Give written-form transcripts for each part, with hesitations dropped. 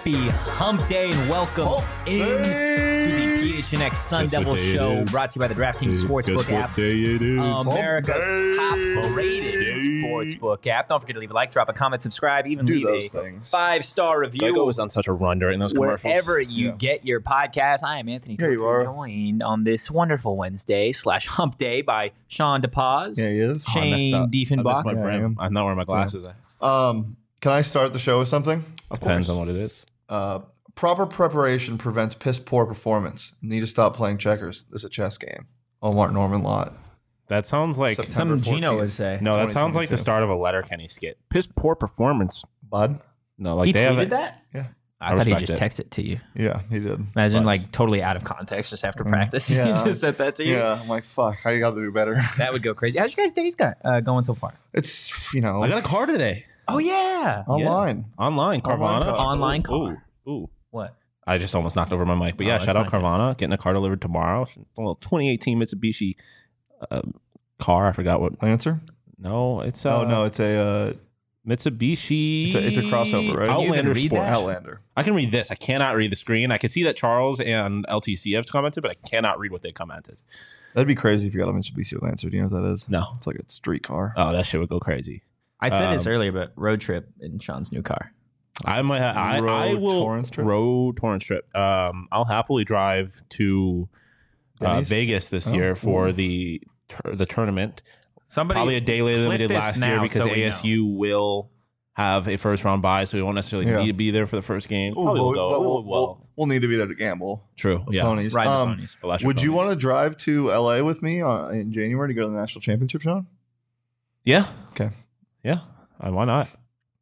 Happy Hump Day and welcome into the PHNX Sun Devil Show, brought to you by the DraftKings Sportsbook app, America's top-rated sportsbook app. Don't forget to leave a like, drop a comment, subscribe, even leave a 5-star review. Geico was on such a run during those commercials. Wherever you get your podcast. I am Anthony Coulter, joined on this wonderful Wednesday / Hump Day by Sean DePaz. Yeah, he is. Shane Diefenbach. I'm not wearing my glasses. Yeah. Can I start the show with something? Depends on what it is. Proper preparation prevents piss poor performance. Need to stop playing checkers. This is a chess game. Omar Norman Lott. That sounds like Some Gino would say. No, that sounds like the start of a Letterkenny skit. Piss poor performance, bud. No, like He they tweeted have that? Yeah. I thought he respect just it. texted to you. Yeah, he did. Imagine, But- like, totally out of context just after practice. yeah. He just said that to you. Yeah, I'm like, fuck, how you got to do better? That would go crazy. How's your guys' days going so far? It's, you know, I got a car today. Oh, yeah. online. Online, Carvana. Online car. Ooh. What? I just almost knocked over my mic. But Oh, yeah, that's shout out fine. Carvana. Getting a car delivered tomorrow. A little 2018 Mitsubishi car. I forgot what. Lancer? No, it's Oh, no, it's a Mitsubishi. it's a crossover, right? You Outlander can read Sport. that? Outlander. I can read this. I cannot read the screen. I can see that Charles and LTC have commented, but I cannot read what they commented. That'd be crazy if you got a Mitsubishi Lancer. Do you know what that is? No. It's like a street car. Oh, that shit would go crazy. I said this earlier, but road trip in Sean's new car. I might. I Road will Torrance trip? road Torrance trip. I'll happily drive to Denny's? Vegas this year for the tournament. Somebody Probably a day later than we clip did this last year now because so we know. ASU will have a first round bye, so we won't necessarily Yeah. need to be there for the first game. Ooh, Probably will but go. we'll need to be there to gamble. True. Yeah. Ponies. Ride the ponies. Electric Would you ponies. want to drive to LA with me in January to go to the national championship, Sean? Yeah. Okay. Yeah. Why not?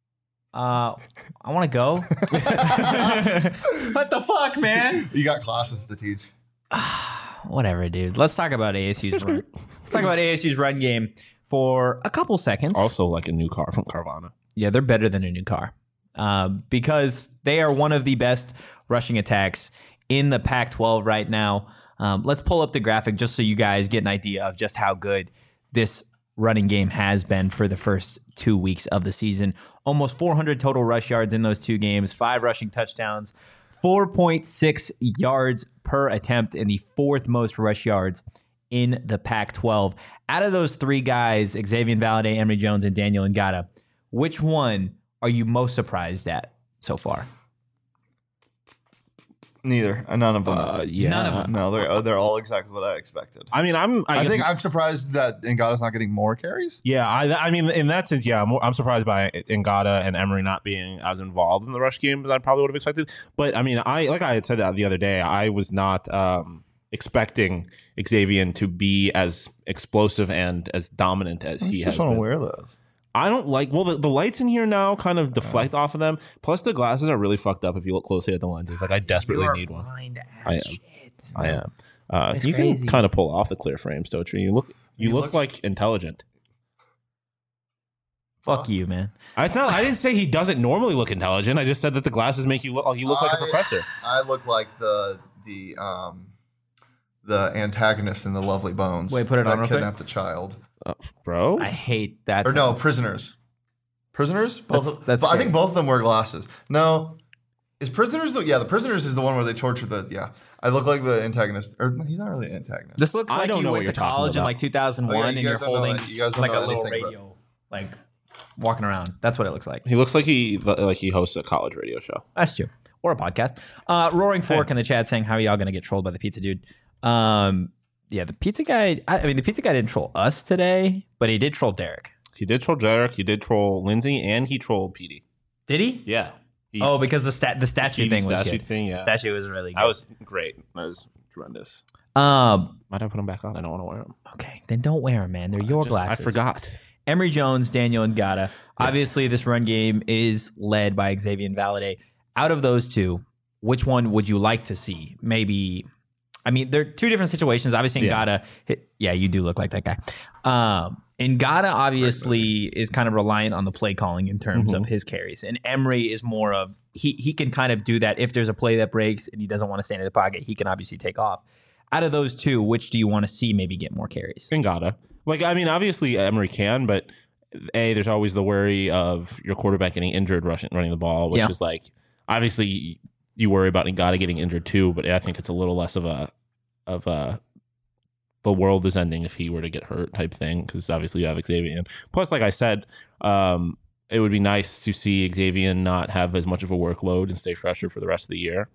I want to go. What the fuck, man? You got classes to teach. Whatever, dude. Let's talk about ASU's run. Let's talk about ASU's run game for a couple seconds. Also, like a new car from Carvana. Yeah, they're better than a new car because they are one of the best rushing attacks in the Pac-12 right now. Let's pull up the graphic just so you guys get an idea of just how good this running game has been for the first 2 weeks of the season. Almost 400 total rush yards in those 2 games, 5 rushing touchdowns, 4.6 yards per attempt, and the 4th most rush yards in the Pac-12. Out of those 3 guys, Xavier Valladay, Emory Jones, and Daniel Ngata, which one are you most surprised at so far? Neither. None of them. Yeah. None of them. No, they're all exactly what I expected. I mean, I guess, think I'm surprised that Ngata's not getting more carries. Yeah, I mean, in that sense, yeah, I'm surprised by Ngata and Emory not being as involved in the rush game as I probably would have expected. But I mean, like I had said that the other day, I was not expecting Xavier to be as explosive and as dominant as he has just want to been. wear those. I don't like. Well, the lights in here now kind of deflect off of them. Plus, the glasses are really fucked up if you look closely at the lenses. Like I desperately need one. I am. Shit. I am. It's You crazy. can kind of pull off the clear frames, don't you? You look looks- like intelligent. Fuck you, man. I didn't say he doesn't normally look intelligent. I just said that the glasses make you look like a professor. I look like the antagonist in The Lovely Bones. Wait, put it on that real quick. kidnapped the child. Bro. I hate that. Or no, sentence. prisoners. Prisoners? Both. That's but I think good. both of them wear glasses. No, is prisoners? The prisoners is the one where they torture the. Yeah, I look like the antagonist, or he's not really an antagonist. This looks I like don't you know what went you're to talking college in about. like 2001 Oh, yeah, and you you're guys don't know holding it. You guys don't like know a little anything, but- radio, like walking around. That's what it looks like. He looks like he hosts a college radio show. That's true. Or a podcast. Roaring Fork in the chat saying, how are y'all going to get trolled by the pizza dude? Yeah, the pizza guy, I mean, the pizza guy didn't troll us today, but he did troll Derek. He did troll Derek. He did troll Lindsay, and he trolled Petey. Did he? Yeah. Oh, because the statue TV thing was statue good. thing, yeah. The statue was really good. That was great. That was tremendous. Um, Might I put them back on? I don't want to wear them. okay, then don't wear them, man. They're your glasses. I forgot. Emory Jones, Daniel Ngata. Obviously, this run game is led by Xavier Valladay. Out of those two, which one would you like to see? Maybe, I mean, they're 2 different situations. Obviously, Yeah. Ngata, yeah, you do look like that guy. Ngata obviously is kind of reliant on the play calling in terms of his carries. And Emory is more of, he can kind of do that. If there's a play that breaks and he doesn't want to stand in the pocket, he can obviously take off. Out of those two, which do you want to see maybe get more carries? Ngata. Like, I mean, obviously Emory can, but there's always the worry of your quarterback getting injured running the ball, which is like, Obviously, you worry about Ngata getting injured too, but I think it's a little less of a the world is ending if he were to get hurt type thing, because obviously you have Xavier. Plus, like I said, it would be nice to see Xavier not have as much of a workload and stay fresher for the rest of the year.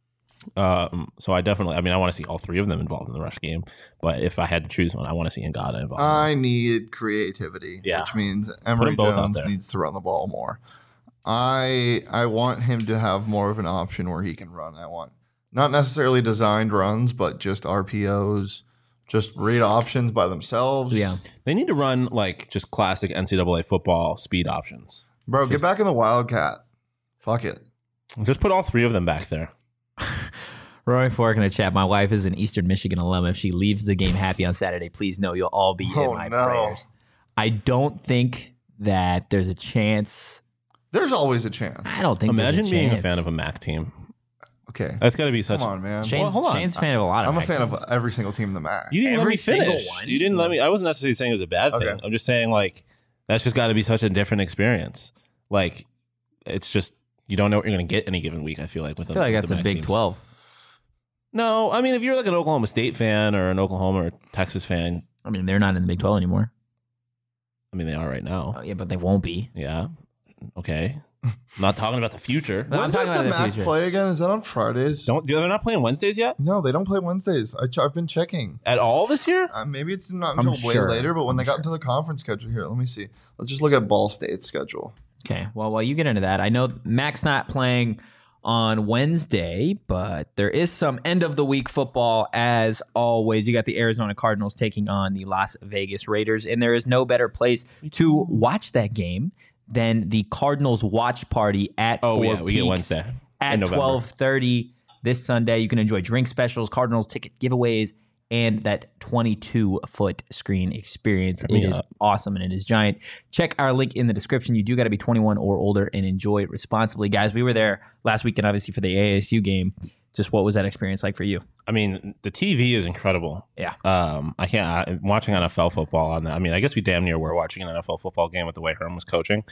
So I want to see all three of them involved in the rush game. But if I had to choose one, I want to see Ngata involved. I need creativity, which means Emory Jones needs to run the ball more. I want him to have more of an option where he can run. I want not necessarily designed runs, but just RPOs, just read options by themselves. Yeah. They need to run like just classic NCAA football speed options. Bro, get back in the Wildcat. Fuck it. Just put all three of them back there. Roy Fork in the chat. My wife is an Eastern Michigan alum. If she leaves the game happy on Saturday, please know you'll all be in my prayers. I don't think that there's a chance. There's always a chance. I don't think Imagine there's a being chance. a fan of a MAC team. Okay. That's got to be such. Come on, man. Shane's a fan of a lot of I'm a MAC fan teams. of every single team in the MAC. You didn't let Every me single finish. one? You didn't let me. I wasn't necessarily saying it was a bad thing. Okay. I'm just saying like that's just got to be such a different experience. Like it's just you don't know what you're going to get any given week. I feel like with I feel like that's a Big 12. No, I mean if you're like an Oklahoma State fan or an Oklahoma or Texas fan, I mean, they're not in the Big 12 anymore. I mean they are right now. Oh, yeah, but they won't be. Yeah. Okay. I'm not talking about the future. No, When I'm does talking the about the MAC future. play again? Is that on Fridays? They're not playing Wednesdays yet No, they don't play Wednesdays. I've been checking. at all this year. Maybe it's not I'm until way sure. later, but when I'm they got sure. into the conference schedule here, let me see. Let's just look at Ball State's schedule. Okay, well, while you get into that, I know Mac's not playing on Wednesday, but there is some end of the week football as always. You got the Arizona Cardinals taking on the Las Vegas Raiders, and there is no better place to watch that game than the Cardinals watch party at Oh Four yeah, we get Peaks Wednesday at in November. 12:30 this Sunday. You can enjoy drink specials, Cardinals ticket giveaways, and that 22-foot screen experience. It is awesome and it is giant. Check our link in the description. You do got to be 21 or older and enjoy it responsibly. Guys, we were there last weekend, obviously, for the ASU game. Just what was that experience like for you? I mean, the TV is incredible. Yeah. I can't. I'm watching NFL football on that. I mean, I guess we damn near were watching an NFL football game with the way Herm was coaching.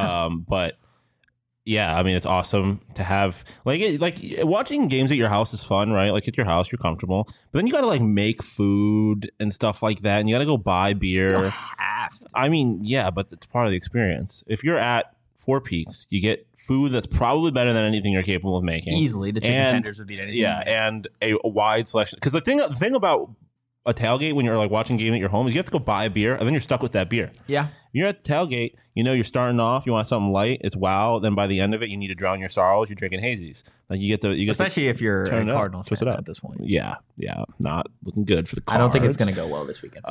But yeah, I mean, it's awesome to have like watching games at your house is fun, right? Like at your house, you're comfortable, but then you got to like make food and stuff like that, and you got to go buy beer. I mean, yeah, but it's part of the experience. If you're at Four Peaks, you get food that's probably better than anything you're capable of making. Easily, the chicken And- tenders would beat anything. Yeah, and a wide selection. Because the thing about a tailgate when you're like watching a game at your home is you have to go buy a beer, and then you're stuck with that beer. Yeah. You're at the tailgate, you know, you're starting off, you want something light, it's wow. Then by the end of it, you need to drown your sorrows. You're drinking hazies. Like you get Especially if you're a turn it up, Cardinals twist fan it up. at this point. yeah, not looking good for the Cards. I don't think it's going to go well this weekend.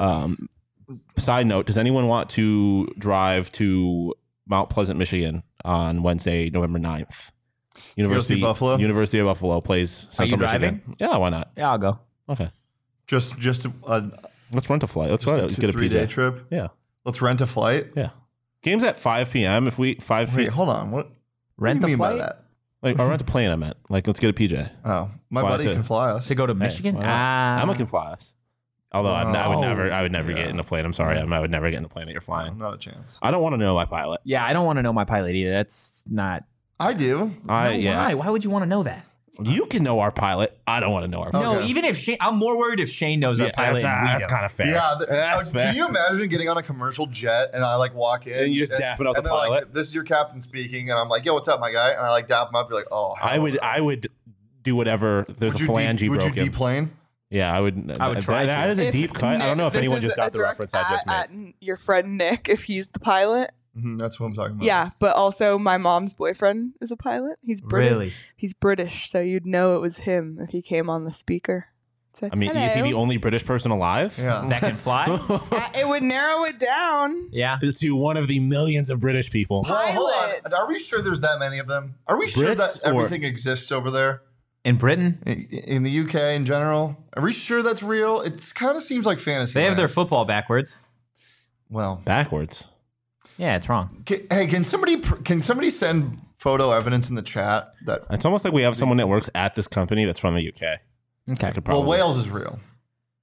Side note: does anyone want to drive to Mount Pleasant, Michigan, on Wednesday, November 9th? see Buffalo? University of Buffalo plays Central driving? Michigan. Yeah, why not? Yeah, I'll go. Okay, Just a let's rent a flight. Let's just get a 3-day PJ. trip. Yeah, Let's rent a flight. yeah. Games at 5 p.m. If we 5 Wait, p.m. hold on. What Rent do you a mean by flight that? Like, or rent a plane. I meant like let's get a PJ. Oh, my Fly buddy to- can fly us. to go to Michigan? Why not? Emma can fly us. Although I would never Yeah. get in a plane. I'm sorry, Emma. I would never get in a plane that you're flying. Not a chance. I don't want to know my pilot. Yeah, I don't want to know my pilot either. That's not. I do. No, Yeah. Why? Why would you want to know that? You can know our pilot. I don't want to know our pilot. No, Okay. even if Shane, I'm more worried if Shane knows our pilot. and we don't. kind of fair. Yeah, That's fair. can you imagine getting on a commercial jet and I like walk in And you just dap it out and the they're pilot? like, "This is your captain speaking," and I'm like, "Yo, what's up, my guy?" And I like dap him up. You're like, "Oh, I would do whatever. There's Would a you phalange would you broken. deplane? Yeah, I would. I would try That to. is a deep cut. I don't know if this anyone is just a got the direct reference I just at made. your friend Nick, if he's the pilot. That's what I'm talking about. Yeah, but also my mom's boyfriend is a pilot. He's British. Really? He's British, so you'd know it was him if he came on the speaker. Say, I mean, is he the "Hello." only British person alive? Yeah. That can fly? It would narrow it down. Yeah. To one of the millions of British people. Well, hold on. Pilots. Are we sure there's that many of them? Are we sure Brits that or- everything exists over there In Britain, in the UK in general? Are we sure that's real? It kind of seems like fantasy. they have their land. football backwards. Well, Backwards. Yeah, it's wrong. hey, can somebody send photo evidence in the chat that It's almost like we have someone that works at this company that's from the UK. Okay. I could well probably. Wales is real?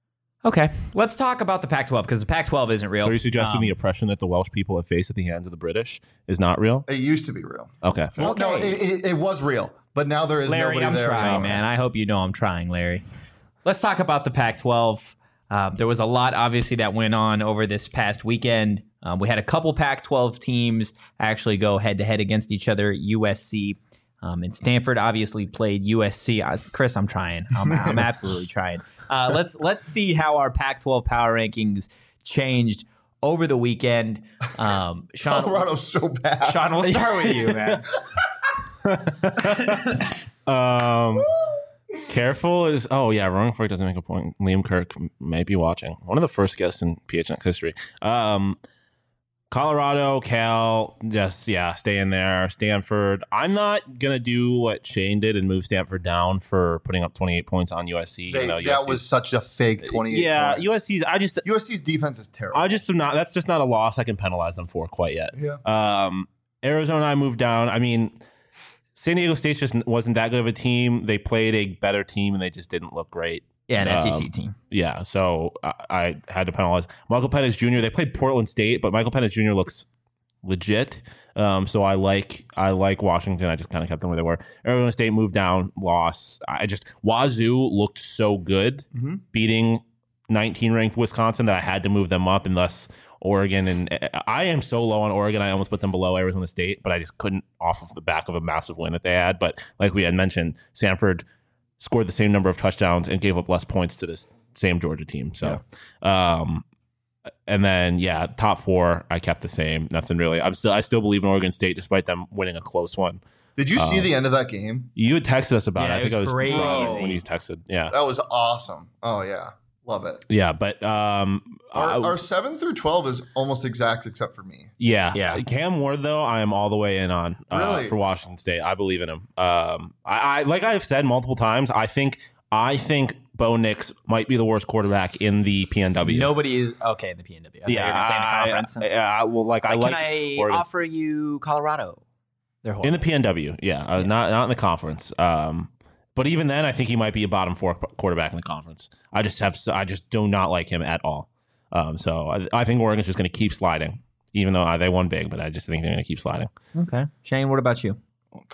Okay, let's talk about the Pac-12 because the Pac-12 isn't real. So are you suggesting the oppression that the Welsh people have faced at the hands of the British is not real? It used to be real. Okay. Well, no, it was real, but now there is Larry, nobody there. I'm trying, man. I hope you know I'm trying, Larry. Let's talk about the Pac-12. There was a lot, obviously, that went on over this past weekend. We had a couple Pac-12 teams actually go head-to-head against each other. USC and Stanford obviously played USC. Chris, I'm trying. I'm absolutely trying. Let's see how our Pac-12 power rankings changed over the weekend. Sean, Colorado's so bad. Sean, we'll start with you, man. Careful is wrong for it doesn't make a point. Liam Kirk might be watching. One of the first guests in PHNX history. Colorado, Cal, stay in there. Stanford. I'm not gonna do what Shane did and move Stanford down for putting up 28 points on USC. That was such a fake 28. Yeah, points. USC's defense is terrible. I just am not. That's just not a loss I can penalize them for quite yet. Yeah. Arizona, I moved down. I mean, San Diego State just wasn't that good of a team. They played a better team and they just didn't look great. Yeah, an SEC team. Yeah, so I had to penalize Michael Penix Jr. They played Portland State, but Michael Penix Jr. looks legit. So I like Washington. I just kind of kept them where they were. Arizona State moved down, loss. Wazoo looked so good, beating 19-ranked Wisconsin that I had to move them up, and thus Oregon. And I am so low on Oregon, I almost put them below Arizona State, but I just couldn't off of the back of a massive win that they had. But like we had mentioned, Stanford scored the same number of touchdowns and gave up less points to this same Georgia team. So, and then top four I kept the same. Nothing really. I still believe in Oregon State despite them winning a close one. Did you see the end of that game? You had texted us about it. I think it was crazy when you texted. Yeah, that was awesome. Oh yeah, love it. Yeah, but our 7 through 12 is almost exact except for me. Yeah. Cam Ward though, I am all the way in on for Washington State. I believe in him. I like I've said multiple times. I think Bo Nix might be the worst quarterback in the PNW. Nobody is okay in the PNW. I saying the conference. Can I offer you Colorado? They're in the PNW. Not in the conference. But even then, I think he might be a bottom 4 quarterback in the conference. I just do not like him at all. So I think Oregon's just going to keep sliding, even though they won big. But I just think they're going to keep sliding. Okay, Shane, what about you?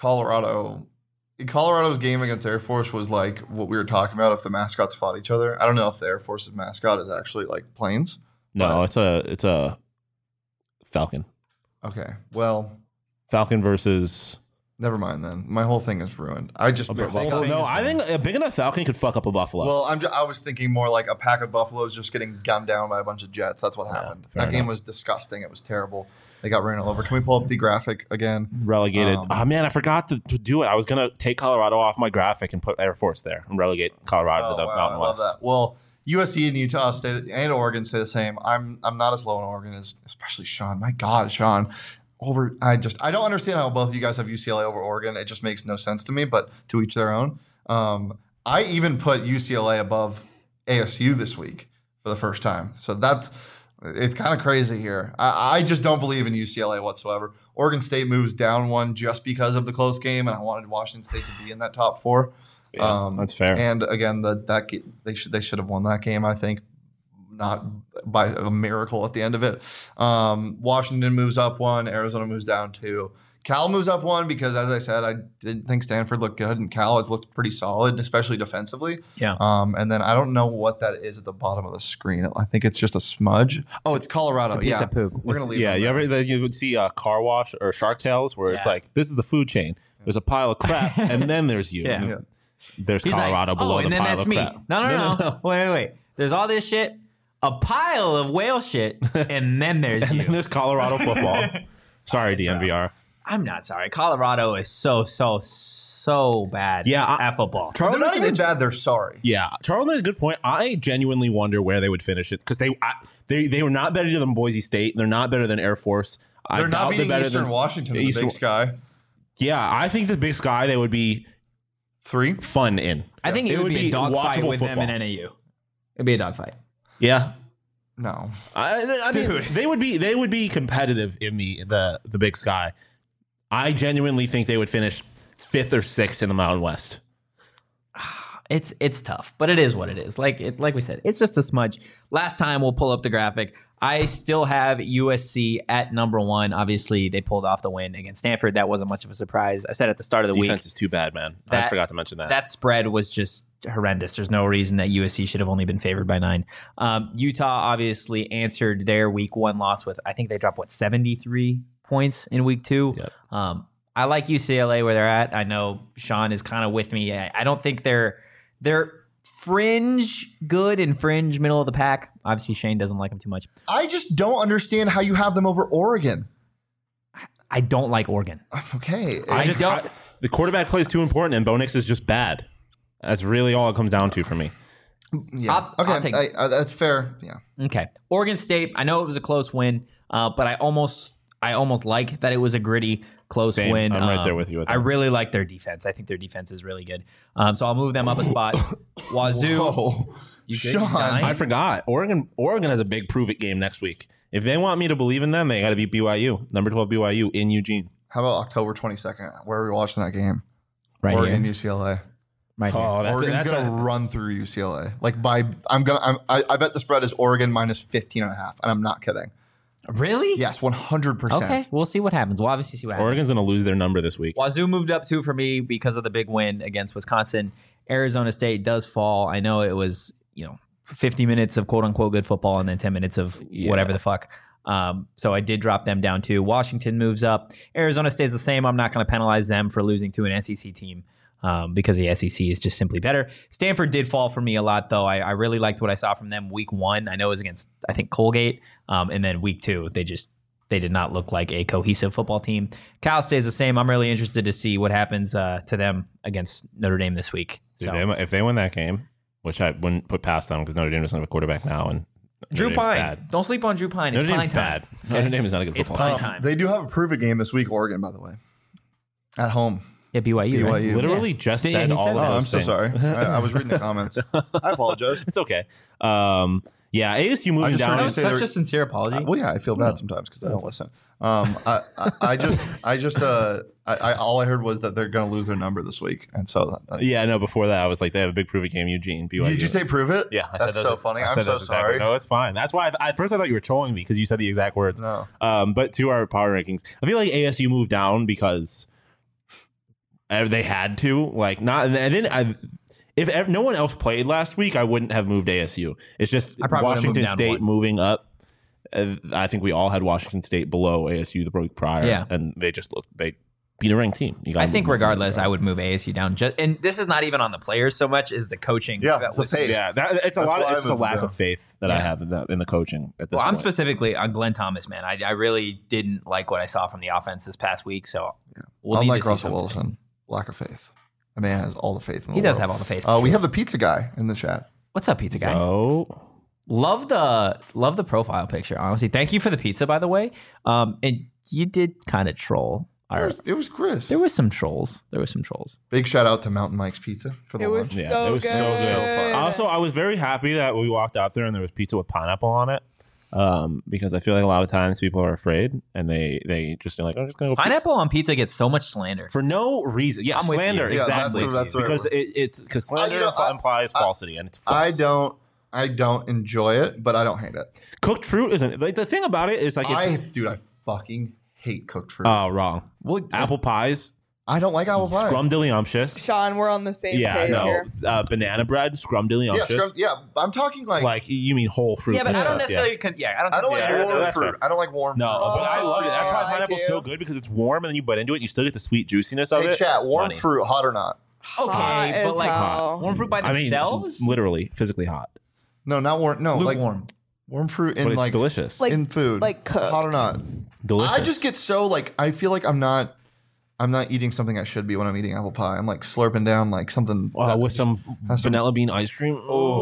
Colorado's game against Air Force was like what we were talking about if the mascots fought each other. I don't know if the Air Force's mascot is actually like planes. No, it's a Falcon. Okay, well, Falcon versus. Never mind then. My whole thing is ruined. I think a big enough Falcon could fuck up a buffalo. Well, I was thinking more like a pack of buffaloes just getting gunned down by a bunch of jets. That's what happened. That game was disgusting. It was terrible. They got ran all over. Can we pull up the graphic again? Relegated. I forgot to do it. I was gonna take Colorado off my graphic and put Air Force there and relegate Colorado to the Mountain West. I love that. Well, USC and Utah and Oregon stay the same. I'm not as low on Oregon as especially Sean. My God, Sean. I don't understand how both of you guys have UCLA over Oregon. It just makes no sense to me, but to each their own. I even put UCLA above ASU this week for the first time. So it's kind of crazy here. I just don't believe in UCLA whatsoever. Oregon State moves down one just because of the close game, and I wanted Washington State to be in that top 4. Yeah, that's fair. And again, they should have won that game, I think. Not by a miracle at the end of it. Washington moves up 1. Arizona moves down 2. Cal moves up 1 because, as I said, I didn't think Stanford looked good, and Cal has looked pretty solid, especially defensively. Yeah. And then I don't know what that is at the bottom of the screen. I think it's just a smudge. Oh, it's Colorado. It's a piece of poop. We're gonna leave. Yeah. You would see Car Wash or Shark Tales where it's like this is the food chain. There's a pile of crap, and then there's you. Yeah. There's Colorado below the pile of crap. No. Wait. There's all this shit. A pile of whale shit, and then there's and then there's Colorado football. Sorry, DNVR. I'm not sorry. Colorado is so bad at football. They're not even bad. They're sorry. Yeah. Charles made a good point. I genuinely wonder where they would finish it because they were not better than Boise State. They're not better than Air Force. They're not beating Eastern Washington in the Big Sky. Yeah, I think the Big Sky they would be 3 fun in. I think it would be a dogfight with them in NAU. It'd be a dogfight. Yeah. No. I mean, they would be competitive in the Big Sky. I genuinely think they would finish 5th or 6th in the Mountain West. It's tough, but it is what it is. Like we said, it's just a smudge. Last time, we'll pull up the graphic. I still have USC at number 1. Obviously, they pulled off the win against Stanford. That wasn't much of a surprise. I said at the start of the week. Defense is too bad, man. I forgot to mention that. That spread was just horrendous. There's no reason that USC should have only been favored by 9. Utah obviously answered their week 1 loss with, I think they dropped, 73 points in week 2. Yep. I like UCLA where they're at. I know Sean is kind of with me. I don't think they're fringe good and fringe middle of the pack. Obviously, Shane doesn't like them too much. I just don't understand how you have them over Oregon. I don't like Oregon. Okay. The quarterback play is too important, and Bo Nix is just bad. That's really all it comes down to for me. Yeah. Okay. That's fair. Yeah. Okay. Oregon State. I know it was a close win, but I almost like that it was a gritty, close win. I'm right there with you. I really like their defense. I think their defense is really good. So I'll move them up a spot. Wazoo. Whoa. You good? Sean, I forgot. Oregon has a big prove it game next week. If they want me to believe in them, they got to beat BYU, number 12 BYU in Eugene. How about October 22nd? Where are we watching that game? Right Oregon, here. UCLA. Right here. Oregon's gonna run through UCLA. I bet the spread is Oregon minus 15.5, and I'm not kidding. Really? Yes, 100%. Okay, we'll see what happens. We'll obviously see what happens. Oregon's going to lose their number this week. Wazoo moved up 2 for me because of the big win against Wisconsin. Arizona State does fall. I know it was, 50 minutes of quote unquote good football and then 10 minutes of whatever the fuck. So I did drop them down 2. Washington moves up. Arizona stays the same. I'm not going to penalize them for losing to an SEC team because the SEC is just simply better. Stanford did fall for me a lot, though. I really liked what I saw from them week 1. I know it was against, I think, Colgate. And then week 2, they did not look like a cohesive football team. Cal stays the same. I'm really interested to see what happens to them against Notre Dame this week. So. If they win that game, which I wouldn't put past them because Notre Dame doesn't have a quarterback now, and Drew Pine. Don't sleep on Drew Pine. It's Notre Dame's bad. Notre Dame is not a good football team. team. It's time. They do have a prove it game this week, Oregon, by the way. At home. Yeah, BYU. Right? Literally just said all of those I'm things. so sorry. I was reading the comments. I apologize. It's okay. ASU moving down. That was such a sincere apology. Well, yeah, I feel bad sometimes because I don't listen. All I heard was that they're going to lose their number this week, and so before that, I was like, they have a big prove it game, Eugene. BYU. Did you say prove it? Yeah, that's so funny. I'm so sorry. No, it's fine. That's why at first I thought you were trolling me because you said the exact words. No. But to our power rankings, I feel like ASU moved down because they had to. Like not, and then if no one else played last week, I wouldn't have moved ASU. It's just Washington State moving up. I think we all had Washington State below ASU the week prior, and they beat a ranked team. I think regardless, I would move ASU down. And this is not even on the players so much as the coaching. Yeah, it's the faith. Yeah, it's a lack of faith that I have in the coaching. At this point. I'm specifically on Glenn Thomas, man. I really didn't like what I saw from the offense this past week. So we'll unlike Russell Wilson, lack of faith. A man has all the faith in the world. He does have all the faith. We have the pizza guy in the chat. What's up, pizza guy? Oh. Love the profile picture, honestly. Thank you for the pizza, by the way. And you did kind of troll. It was Chris. There was some trolls. Big shout out to Mountain Mike's Pizza for the lunch. It was so good. Also, I was very happy that we walked out there and there was pizza with pineapple on it. Because I feel like a lot of times people are afraid and they just are like, I'm just gonna go. Pineapple on pizza gets so much slander for no reason. Yeah, slander exactly. That's because because slander implies falsity and it's false. I don't enjoy it, but I don't hate it. Cooked fruit isn't like the thing about it is like I fucking hate cooked fruit. Oh, wrong. Well, apple pies. I don't like apple pie. Scrumdiddlyumptious. Sean, we're on the same page here. Banana bread, scrumdiddlyumptious. I'm talking like you mean whole fruit. Yeah, but I don't necessarily. I don't like warm fruit. I don't like warm fruit. No, but I love it. That's why pineapple's so good because it's warm and then you bite into it and you still get the sweet juiciness of it. Hey, chat, warm fruit, hot or not? Okay, but like warm fruit by themselves? Literally, physically hot. No, not warm. No, lukewarm. Warm fruit in but it's delicious. in food, like cooked. hot or not. Delicious. I just get so I feel like I'm not eating something I should be when I'm eating apple pie. I'm like slurping down like something with some vanilla bean ice cream.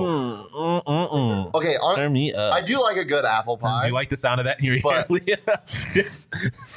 Okay, turn me up. I do like a good apple pie. Do you like the sound of that in your ear? Just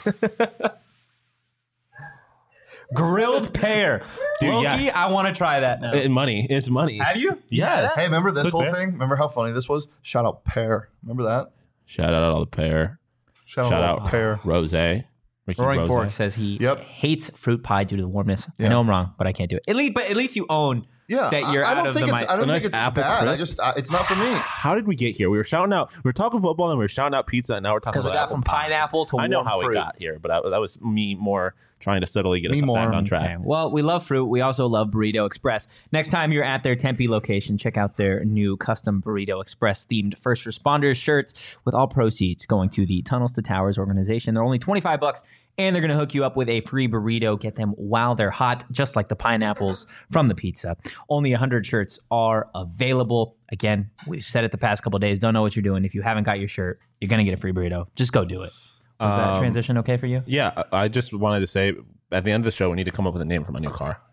grilled pear. Dude, Loki, yes. I want to try that now. It's money. Have you? Yes. Hey, remember this whole pear? thing? Remember how funny this was? Shout out pear. Remember that? Shout out all the pear. Shout out pear. Rose. Roaring Fork says he hates fruit pie due to the warmness. Yeah. I know I'm wrong, but I can't do it. But at least you own that you're out of the mic. I don't think it's bad. It's not for me. How did we get here? We were shouting out. We were talking football and we were shouting out pizza, and now we're talking about. Because we got from pineapple to I know how fruit. we got here, but that was me more trying to subtly get us back on track. Okay. Well, we love fruit. We also love Burrito Express. Next time you're at their Tempe location, check out their new custom Burrito Express themed first responders shirts with all proceeds going to the Tunnels to Towers organization. They're only $25, and they're going to hook you up with a free burrito. Get them while they're hot, just like the pineapples from the pizza. Only 100 shirts are available. Again, we've said it the past couple of days. Don't know what you're doing. If you haven't got your shirt, you're going to get a free burrito. Just go do it. Was that transition okay for you? Yeah, I just wanted to say at the end of the show, we need to come up with a name for my new car.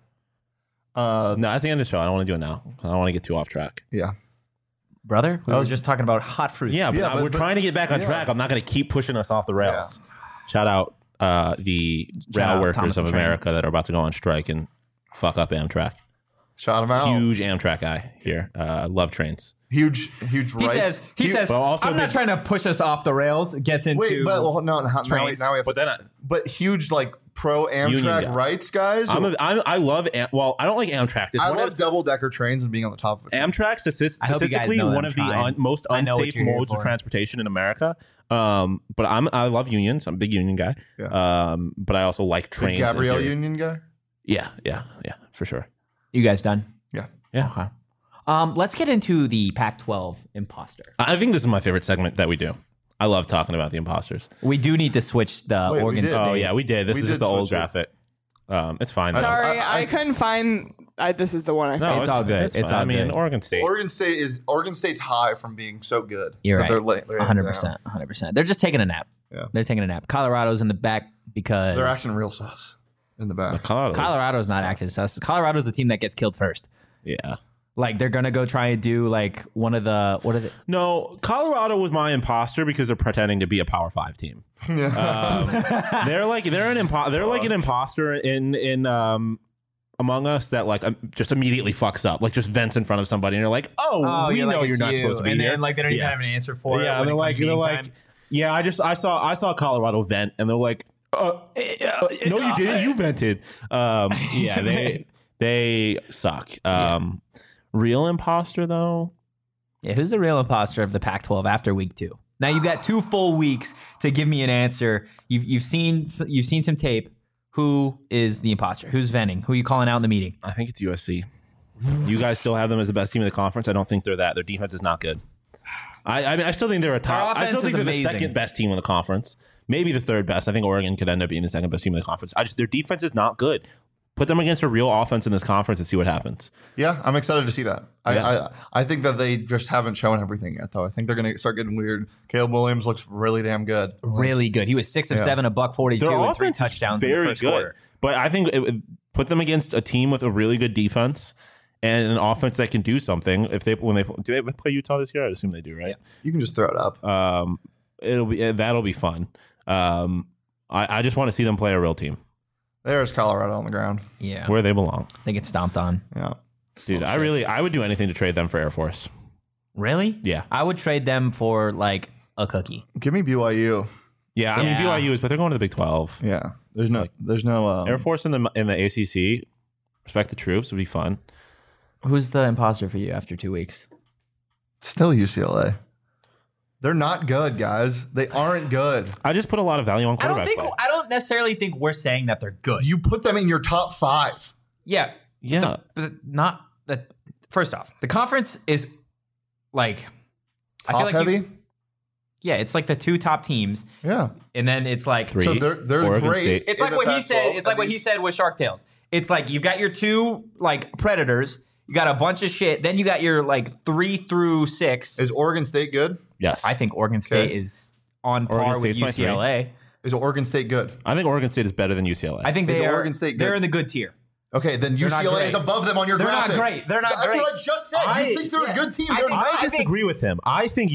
No, at the end of the show, I don't want to do it now. I don't want to get too off track. Yeah. Brother, we were just talking about hot fruit. Yeah, but we're trying to get back on track. I'm not going to keep pushing us off the rails. Yeah. Shout out the rail workers of America that are about to go on strike and fuck up Amtrak. Shout them out. Huge Amtrak guy here. Love trains. Huge rights. He says, I'm not trying to push us off the rails. Gets into now we have but huge pro Amtrak rights guys. I love I don't like Amtrak. I love double-decker trains and being on the top of it. Amtrak statistically one of the most unsafe modes of transportation in America. But I love unions. I'm a big union guy. Yeah. But I also like trains. The Gabrielle union guy? Yeah, for sure. You guys done? Yeah. Okay. Let's get into the Pac-12 imposter. I think this is my favorite segment that we do. I love talking about the imposters. We do need to switch the Oregon State. Oh, yeah, we did. This is just the old graphic. It's fine. Sorry, I couldn't find... this is the one I found. It's all good. It's all good. Oregon State. Oregon State's high from being so good. You're right. They're 100%. They're just taking a nap. Yeah. They're taking a nap. Colorado's in the back because... They're acting real sus in the back. Colorado's not acting sus. Colorado's the team that gets killed first. Yeah. They're going to go try and do one of the... What are they? No, Colorado was my imposter because they're pretending to be a Power 5 team. Yeah. They're an imposter in Among Us that just immediately fucks up. Just vents in front of somebody and you're like, we know you're not supposed to be here. And then they don't even have an answer for it. Yeah, and they're like, yeah, I saw Colorado vent and they're like, no, you didn't. You vented. They suck. Real imposter though. Yeah, who's the real imposter of the Pac-12 after week 2? Now you've got 2 full weeks to give me an answer. You've seen some tape. Who is the imposter? Who's venting? Who are you calling out in the meeting? I think it's USC. You guys still have them as the best team in the conference. I don't think they're that. Their defense is not good. I still think they're a top. I still think they're the second best team in the conference. Maybe the third best. I think Oregon could end up being the second best team in the conference. Their defense is not good. Put them against a real offense in this conference and see what happens. Yeah, I'm excited to see that. I think that they just haven't shown everything yet, though. I think they're going to start getting weird. Caleb Williams looks really damn good. Really good. He was 6 of 7, $142, and 3 touchdowns in the first quarter. But I think put them against a team with a really good defense and an offense that can do something. Do they play Utah this year? I assume they do, right? Yeah. You can just throw it up. That'll be fun. I just want to see them play a real team. There's Colorado on the ground. Yeah. Where they belong. They get stomped on. Yeah. Dude, I would do anything to trade them for Air Force. Really? Yeah. I would trade them for a cookie. Give me BYU. Yeah, I mean BYU is, but they're going to the Big 12. Yeah. There's no Air Force in the ACC. Respect the troops would be fun. Who's the imposter for you after 2 weeks? Still UCLA. They're not good, guys. They aren't good. I just put a lot of value on quarterback play. I don't necessarily think we're saying that they're good. You put them in your top 5. Yeah. Not that. First off, the conference is I feel like heavy. It's the 2 top teams. Yeah. And then it's 3. So they're Oregon great. State. It's like what he said. It's like what he said with Shark Tales. It's you've got your 2 predators. You got a bunch of shit. Then you got your 3 through 6. Is Oregon State good? Yes. I think Oregon State is on par with UCLA. Is Oregon State good? I think Oregon State is better than UCLA. I think Oregon State good? They're in the good tier. Okay, then UCLA is above them on your graphic. They're not great. They're not great. That's what I just said. You think they're a good team. I disagree with him. I think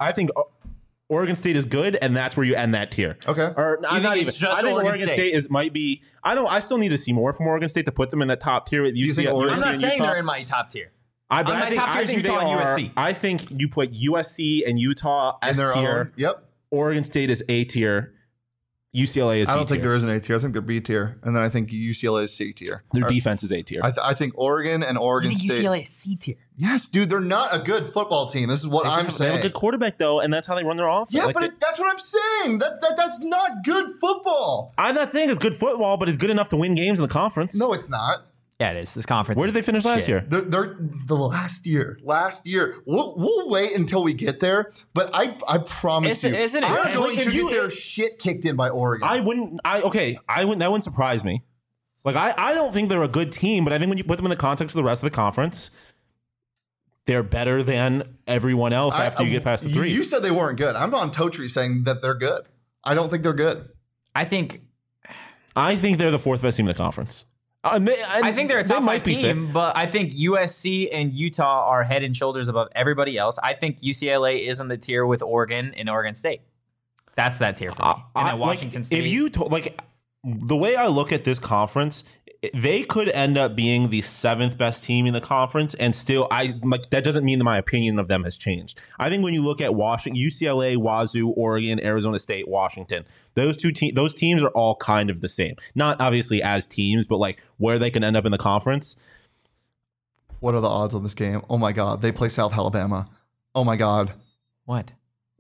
Oregon State is good, and that's where you end that tier. Okay. Or not even. I think Oregon State might be. I still need to see more from Oregon State to put them in the top tier with UCLA. I'm not saying they're in my top tier. I think Utah and USC. I think you put USC and Utah S tier. Yep. Oregon State is A tier. UCLA is B I don't think tier. there is an A tier. I think they're B tier. And then I think UCLA is C tier. Their defense is A tier. I think Oregon and Oregon State. UCLA is C tier? Yes, dude. They're not a good football team. This is what I'm saying. They have a good quarterback, though, and that's how they run their offense. Yeah, but that's what I'm saying. That's not good football. I'm not saying it's good football, but it's good enough to win games in the conference. No, it's not. Yeah, it is. This conference. Where did they finish last year? They're the last year. We'll wait until we get there. But I promise Isn't it? they're going to If you- get their shit kicked in by Oregon. That wouldn't surprise me. Like, I don't think they're a good team, but I think when you put them in the context of the rest of the conference, they're better than everyone else after you get past the 3. You said they weren't good. I'm on Totri saying that they're good. I don't think they're good. I think they're the 4th best team in the conference. I think they're a top 5 team, fifth. but I think USC and Utah are head and shoulders above everybody else. I think UCLA is in the tier with Oregon and Oregon State. That's that tier for me. And then Washington State. If you the way I look at this conference, they could end up being the 7th best team in the conference, and still, that doesn't mean that my opinion of them has changed. I think when you look at UCLA, Wazoo, Oregon, Arizona State, Washington, those teams are all kind of the same. Not obviously as teams, but like where they can end up in the conference. What are the odds on this game? Oh my God, they play South Alabama. Oh my God, what?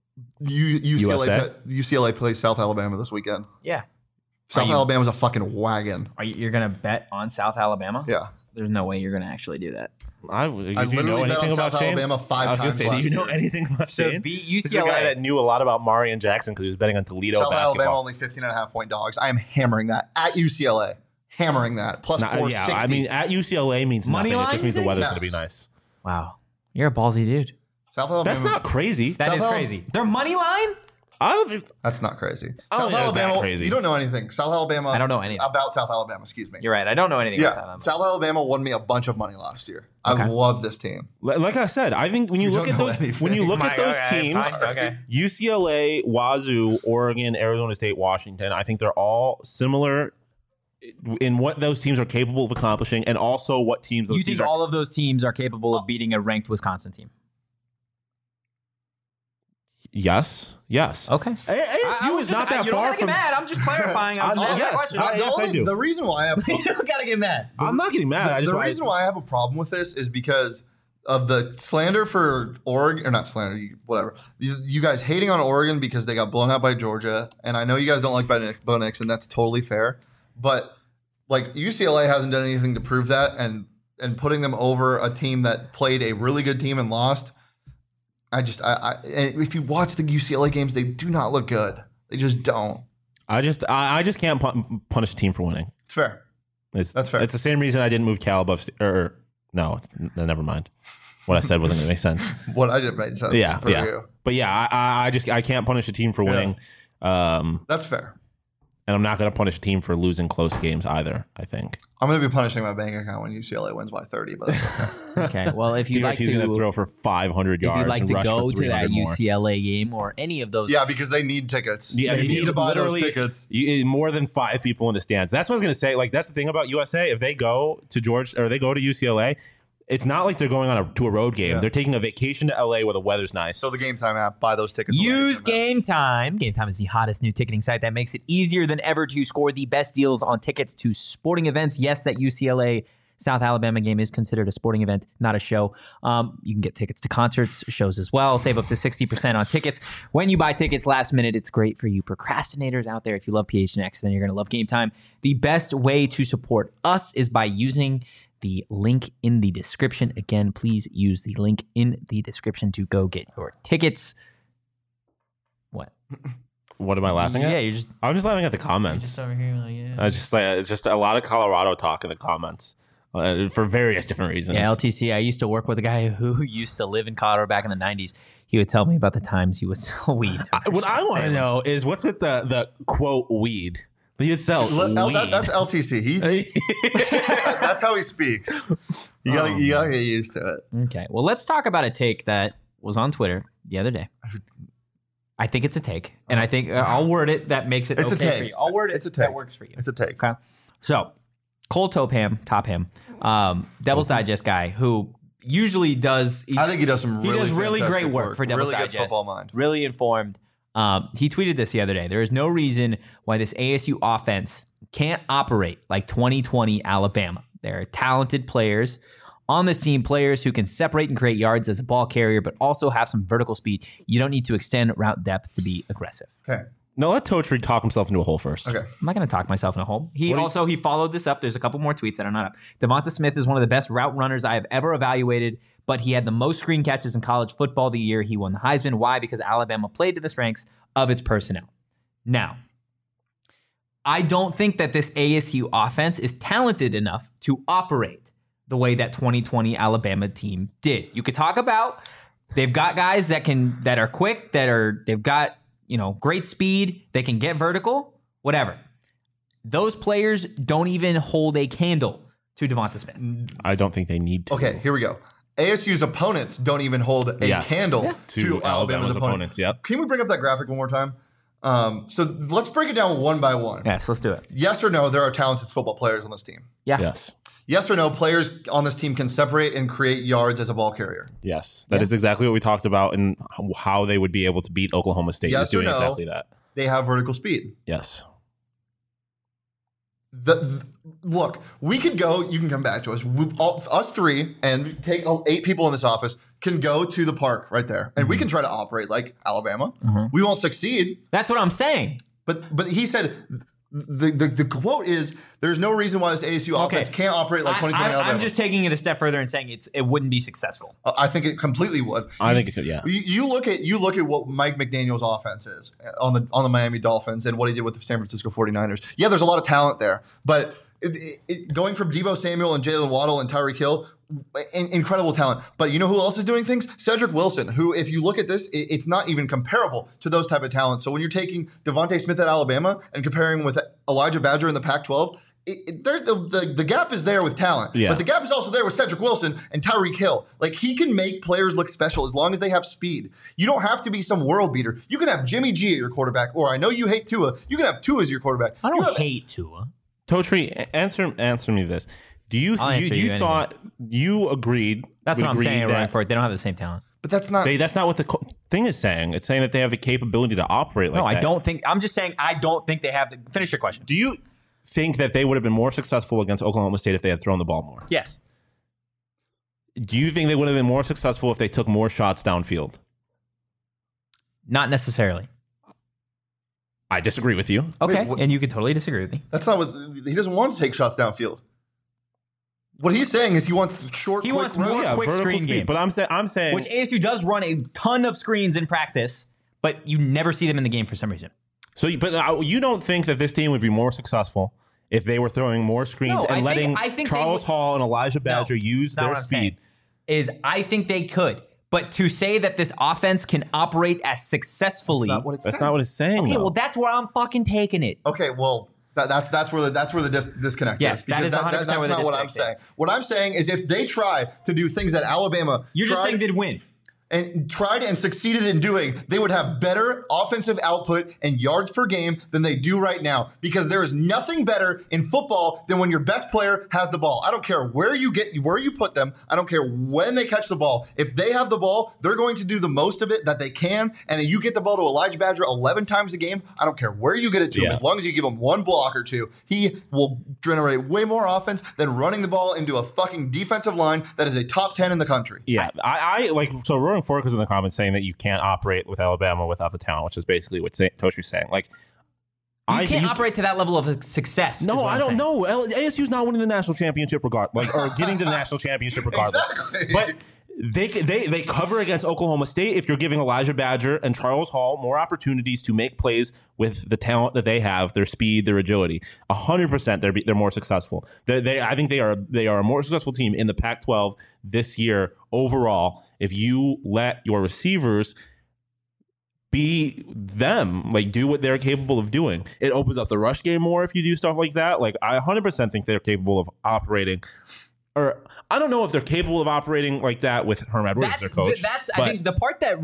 UCLA plays South Alabama this weekend. Yeah. South Alabama's a fucking wagon. You're gonna bet on South Alabama? Yeah. There's no way you're gonna actually do that. I literally bet on South Alabama 5 times. Do you know anything about Shane? Beat This is a guy that knew a lot about Marion Jackson because he was betting on Toledo South basketball. Alabama only 15.5-point dogs. I am hammering that at UCLA. Hammering that plus 460. Yeah, I mean at UCLA means Money nothing. It just line? means the weather's going to Yes. be nice. Wow. You're a ballsy dude. South Alabama. That's not crazy. That is crazy. Their money line? I don't think That's not crazy. I don't South think that's Alabama. that crazy. You don't know anything. South Alabama. I don't know anything about South Alabama. Excuse me. You're right. I don't know anything about South Yeah, Alabama. South Alabama won me a bunch of money last year. Okay. I love this team. Like I said, I think when you look don't at know those anything. when you look at those Okay, teams, fine, okay. UCLA, Wazoo, Oregon, Arizona State, Washington, I think they're all similar in what those teams are capable of accomplishing, and also what teams those You teams think are. all of those teams are capable of beating a ranked Wisconsin team? Yes. Okay. ASU is not that you far don't from. get mad. I'm just clarifying. I'm just yes. question. Yes, I do. The reason why I have You don't gotta get mad. I'm not getting mad. the reason why I have a problem with this is because of the slander for Oregon, or not slander, whatever. You guys hating on Oregon because they got blown out by Georgia, and I know you guys don't like Bo Nix, and that's totally fair. But like UCLA hasn't done anything to prove that, and putting them over a team that played a really good team and lost. And if you watch the UCLA games, they do not look good. They just don't. I just can't punish a team for winning. It's fair. That's fair. It's the same reason I didn't move Cal above. Never mind. What I said wasn't going to make sense. What I did made sense. Yeah. You. But yeah, I can't punish a team for winning. That's fair. And I'm not going to punish a team for losing close games either, I think. I'm going to be punishing my bank account when UCLA wins by 30, but that's okay. Okay. Well, if you'd like DRT's going to throw for 500 yards. if you'd like and to rush go for to that 300 more. UCLA game or any of those, Yeah, because they need tickets. Yeah, they need to buy those literally tickets. More than 5 people in the stands. That's what I was going to say. Like, that's the thing about USA. If they go to UCLA, it's not like they're going to a road game. Yeah. They're taking a vacation to LA where the weather's nice. So the Game Time app, buy those tickets. use Game Time. Game Time is the hottest new ticketing site that makes it easier than ever to score the best deals on tickets to sporting events. Yes, that UCLA South Alabama game is considered a sporting event, not a show. You can get tickets to concerts, shows as well. Save up to 60% on tickets. When you buy tickets last minute, it's great for you procrastinators out there. If you love PHNX, then you're going to love Game Time. The best way to support us is by using the link in the description. Again, please use the link in the description to go get your tickets. What? What am I laughing at? Yeah, you're just I'm just laughing at the comments. over here. Like, yeah. It's just a lot of Colorado talk in the comments for various different reasons. Yeah, LTC. I used to work with a guy who used to live in Colorado back in the 90s. He would tell me about the times he would sell weed. What I want to know is what's with the quote weed. He'd sell weed. That's LTC. That's how he speaks. You gotta get used to it. Okay. Well, let's talk about a take that was on Twitter the other day. I think it's a take, and I think I'll word it that makes it It's a okay take. for you. I'll word it It's a take. that works for you. It's a take. Okay. So, Cole Topham, Devil's Digest guy, who usually does. I think he does some really great fantastic work for Devil's really Digest. good football mind. Really informed. He tweeted this the other day. There is no reason why this ASU offense can't operate like 2020 Alabama. There are talented players on this team, players who can separate and create yards as a ball carrier, but also have some vertical speed. You don't need to extend route depth to be aggressive. Okay. No, let Totri talk himself into a hole first. Okay. I'm not going to talk myself in a hole. He followed this up. There's a couple more tweets that are not up. Devonta Smith is one of the best route runners I have ever evaluated, but he had the most screen catches in college football the year he won the Heisman. Why? Because Alabama played to the strengths of its personnel. Now, I don't think that this ASU offense is talented enough to operate the way that 2020 Alabama team did. You could talk about they've got guys that are quick, they've got, great speed, they can get vertical, whatever. Those players don't even hold a candle to Devonta Smith. I don't think they need to. Okay, here we go. ASU's opponents don't even hold a candle to Alabama's opponents. Yep. Can we bring up that graphic one more time? So let's break it down one by one. Yes, let's do it. Yes or no, there are talented football players on this team. Yeah. Yes. Yes or no, players on this team can separate and create yards as a ball carrier. Yes. That is exactly what we talked about and how they would be able to beat Oklahoma State. Yes is doing or no, exactly that. They have vertical speed. Yes. Look, we could go, you can come back to us. Us three and take 8 people in this office can go to the park right there. And we can try to operate like Alabama. We won't succeed. That's what I'm saying. But he said the quote is there's no reason why this ASU offense can't operate like 2020 Alabama. I'm just taking it a step further and saying it wouldn't be successful. I think it completely would. I think it could, yeah. You look at what Mike McDaniel's offense is on the Miami Dolphins and what he did with the San Francisco 49ers. Yeah, there's a lot of talent there, but going from Deebo Samuel and Jalen Waddle and Tyreek Hill, incredible talent. But you know who else is doing things? Cedric Wilson, who, if you look at this, it's not even comparable to those type of talents. So when you're taking Devonta Smith at Alabama and comparing with Elijah Badger in the Pac-12, there's the gap is there with talent. Yeah. But the gap is also there with Cedric Wilson and Tyreek Hill. Like, he can make players look special as long as they have speed. You don't have to be some world beater. You can have Jimmy G at your quarterback, or I know you hate Tua. You can have Tua as your quarterback. I don't hate Tua. Totri, answer me this. Do you thought you agreed? That's what I'm saying. Right for it. They don't have the same talent. But that's not what the thing is saying. It's saying that they have the capability to operate like that. No, I don't think. I'm just saying I don't think they have the. Finish your question. Do you think that they would have been more successful against Oklahoma State if they had thrown the ball more? Yes. Do you think they would have been more successful if they took more shots downfield? Not necessarily. I disagree with you. Okay, and you can totally disagree with me. That's not what he doesn't want to take shots downfield. What he's saying is he wants short. He wants more quick screen game. But I'm saying which ASU does run a ton of screens in practice, but you never see them in the game for some reason. So, but you don't think that this team would be more successful if they were throwing more screens and letting Charles Hall and Elijah Badger use their speed? I think they could. But to say that this offense can operate as successfully, that's not what it's saying. Okay, well, that's where I'm fucking taking it. Okay, well, that's where the disconnect is. Yes, that is 100% where the disconnect not what I'm saying. What I'm saying is if they try to do things that Alabama just saying they'd win. And tried and succeeded in doing, they would have better offensive output and yards per game than they do right now. Because there is nothing better in football than when your best player has the ball. I don't care where you put them. I don't care when they catch the ball. If they have the ball, they're going to do the most of it that they can. And you get the ball to Elijah Badger 11 times a game. I don't care where you get it to him. As long as you give him one block or two, he will generate way more offense than running the ball into a fucking defensive line that is a top 10 in the country. Yeah, Roaring Fork was in the comments saying that you can't operate with Alabama without the talent, which is basically what Toshi's saying. Like, you can't operate to that level of success. No, I don't know. ASU's not winning the national championship regardless, or getting to the national championship regardless. Exactly. But they cover against Oklahoma State if you're giving Elijah Badger and Charles Hall more opportunities to make plays with the talent that they have, their speed, their agility. 100% they're more successful. I think they are a more successful team in the Pac-12 this year overall if you let your receivers be them, like do what they're capable of doing. It opens up the rush game more if you do stuff like that. Like, I 100% think they're capable of operating, or I don't know if they're capable of operating like that with Herm Edwards as their coach. I think the part that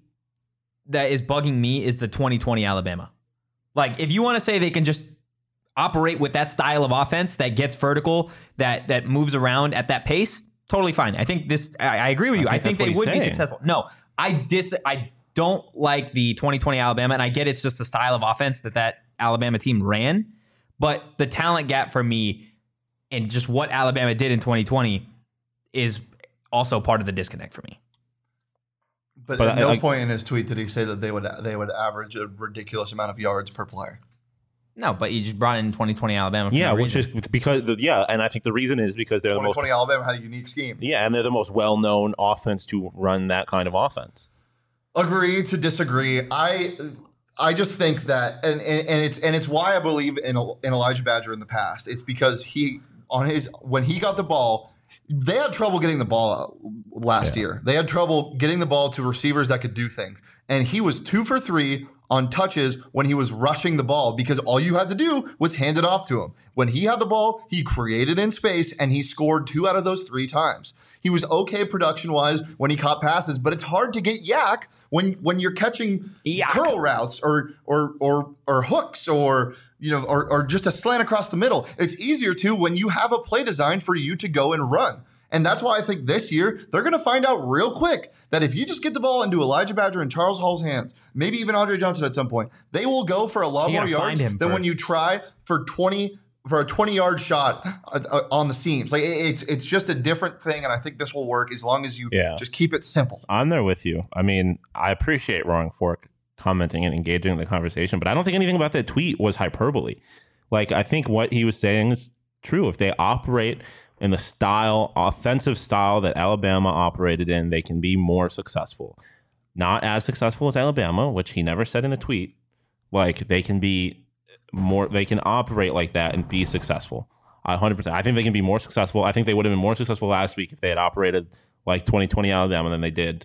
is bugging me is the 2020 Alabama. Like, if you want to say they can just operate with that style of offense that gets vertical, that moves around at that pace, totally fine. I think I agree with you. I think they would be successful. No, I don't like the 2020 Alabama, and I get it's just the style of offense that Alabama team ran, but the talent gap for me and just what Alabama did in 2020 is also part of the disconnect for me. But at no point in his tweet did he say that they would average a ridiculous amount of yards per player. No, but you just brought in 2020 Alabama. Yeah, which is because and I think the reason is because they're 2020 Alabama had a unique scheme. Yeah, and they're the most well-known offense to run that kind of offense. Agree to disagree. I just think that, and it's why I believe in Elijah Badger in the past. It's because when he got the ball, they had trouble getting the ball out last year. They had trouble getting the ball to receivers that could do things, and he was 2 for 3 on touches when he was rushing the ball because all you had to do was hand it off to him. When he had the ball, he created in space and he scored 2 out of those 3 times. He was okay production-wise when he caught passes, but it's hard to get yak when you're catching curl routes or hooks or just a slant across the middle. It's easier to when you have a play designed for you to go and run. And that's why I think this year they're going to find out real quick that if you just get the ball into Elijah Badger and Charles Hall's hands, maybe even Andre Johnson at some point, they will go for a lot more yards than when you try for a 20-yard shot on the seams. Like it's just a different thing, and I think this will work as long as you just keep it simple. I'm there with you. I mean, I appreciate Roaring Fork commenting and engaging in the conversation, but I don't think anything about that tweet was hyperbole. Like, I think what he was saying is true. If they operate in the offensive style that Alabama operated in, they can be more successful. Not as successful as Alabama, which he never said in the tweet. Like, they can be more, they can operate like that and be successful. 100%. I think they can be more successful. I think they would have been more successful last week if they had operated like 2020 Alabama than they did.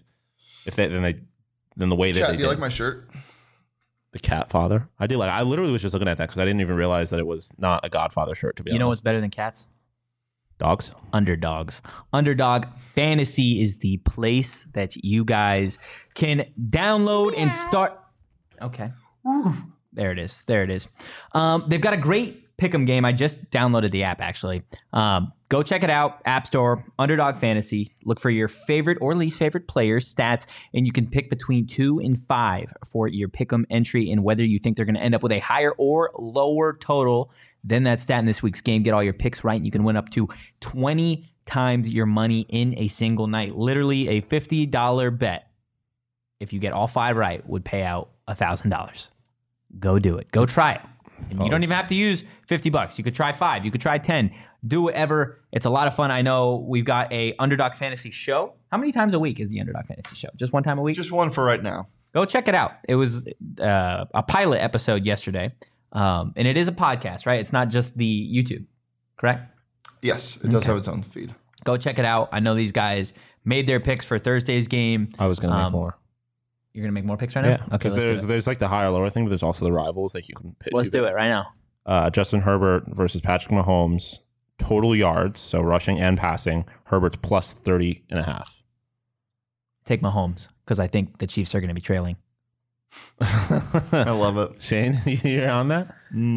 Than the way that they did. Do you like my shirt? The Cat Father. I do like. I literally was just looking at that because I didn't even realize that it was not a Godfather shirt. To be honest, you know what's better than cats? Dogs. Underdogs. Underdog Fantasy is the place that you guys can download and start. Okay. There it is. They've got a great pick'em game. I just downloaded the app, actually. Go check it out. App Store, Underdog Fantasy. Look for your favorite or least favorite players' stats, and you can pick between 2 and 5 for your pick'em entry and whether you think they're going to end up with a higher or lower total than that stat in this week's game. Get all your picks right, and you can win up to 20 times your money in a single night. Literally a $50 bet, if you get all 5 right, would pay out $1,000. Go do it. Go try it. And you don't even have to use $50. You could try 5. You could try 10. Do whatever. It's a lot of fun. I know we've got a Underdog Fantasy show. How many times a week is the Underdog Fantasy show? Just one time a week? Just one for right now. Go check it out. It was a pilot episode yesterday. And it is a podcast, right? It's not just the YouTube, correct? Yes, it does have its own feed. Go check it out. I know these guys made their picks for Thursday's game. I was going to make more. You're going to make more picks right now? Yeah, okay, there's like the higher lower thing, but there's also the rivals that you can pick. Let's do it right now. Justin Herbert versus Patrick Mahomes. Total yards, so rushing and passing. Herbert's plus 30.5. Take Mahomes, because I think the Chiefs are going to be trailing. I love it. Shane, you're on that?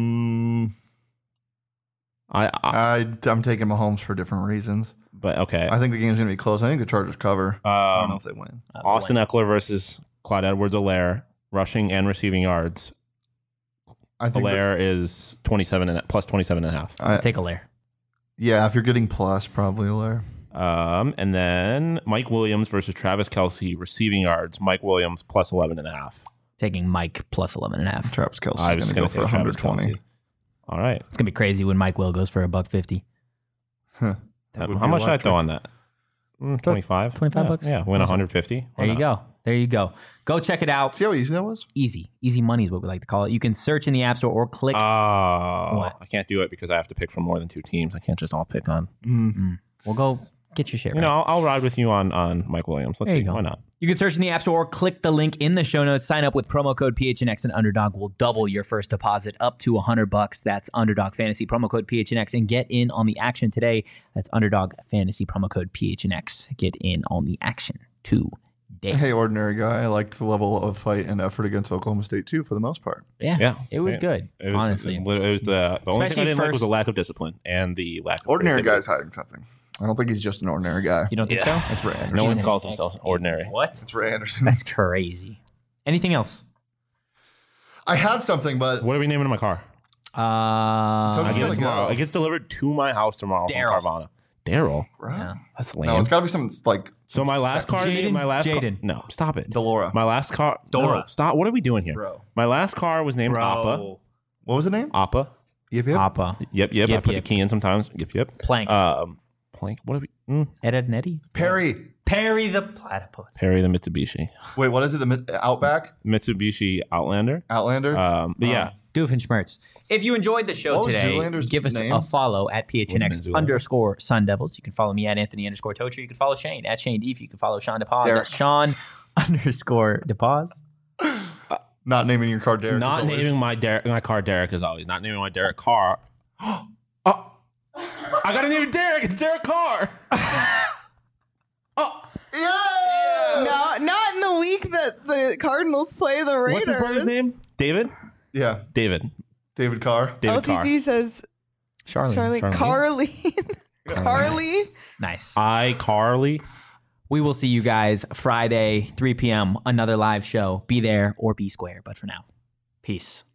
I'm taking Mahomes for different reasons. But okay. I think the game's going to be close. I think the Chargers cover. I don't know if they win. Austin Eckler versus Clyde Edwards-Helaire, rushing and receiving yards. I think Helaire is plus 27.5. Take Helaire. Yeah, if you're getting plus, probably Helaire. And then Mike Williams versus Travis Kelce, receiving yards. Mike Williams plus 11.5. Taking Mike plus 11.5. Travis Kelce is going to go for 120. All right. It's going to be crazy when Mike Will goes for $150. Huh. How much should I throw on that? 25? 25 bucks? Yeah, win 150. There you go. Go check it out. See how easy that was? Easy. Easy money is what we like to call it. You can search in the App Store or click. What? I can't do it because I have to pick from more than 2 teams. I can't just all pick on. We'll go get your share. I'll ride with you on Mike Williams. Let's see. Why not? You can search in the App Store or click the link in the show notes. Sign up with promo code PHNX, and Underdog will double your first deposit up to $100. That's Underdog Fantasy, promo code PHNX, and get in on the action today. That's Underdog Fantasy, promo code PHNX. Get in on the action today. Hey, ordinary guy. I liked the level of fight and effort against Oklahoma State, too, for the most part. Yeah. It was good, honestly. It was the only thing I didn't like was the lack of discipline and the lack of ordinary guy's hiding something. I don't think he's just an ordinary guy. You don't think so? That's Ray Anderson. No one calls themselves ordinary. What? It's Ray Anderson. That's crazy. Anything else? I had something, but what are we naming my car? I get it tomorrow. It gets delivered to my house tomorrow from Carvana. Daryl, right? Yeah. That's lame. No, it's got to be something like. So my last car, Jaden. No, stop it. Delora. My last car, Dora. No, stop. What are we doing here, bro? My last car was named Appa. What was the name? Appa. Yep. Appa. Yep. I put the key in sometimes. Yep. Plank. Plank. What are we? Ed and Eddie. Perry the platypus. Perry the Mitsubishi. Wait, what is it? The Outback? Mitsubishi Outlander. Outlander. But yeah. Doofenshmirtz. If you enjoyed the show today, give us a follow at PHNX_Sun Devils. You can follow me at Anthony_Tocher. You can follow Shane at Shane Deef. You can follow Sean DePaz at Sean_DePaz. Not naming your car Derek. Not naming my car Derek as always. Not naming my Derek car. Oh, I gotta name it Derek. It's Derek Carr. Oh, yeah. No, not in the week that the Cardinals play the Raiders. What's his brother's name? David. Yeah, David Carr. David LTC Carr. Says Charlie. Carly. Nice. Carly. We will see you guys Friday, 3 p.m. Another live show. Be there or be square. But for now, peace.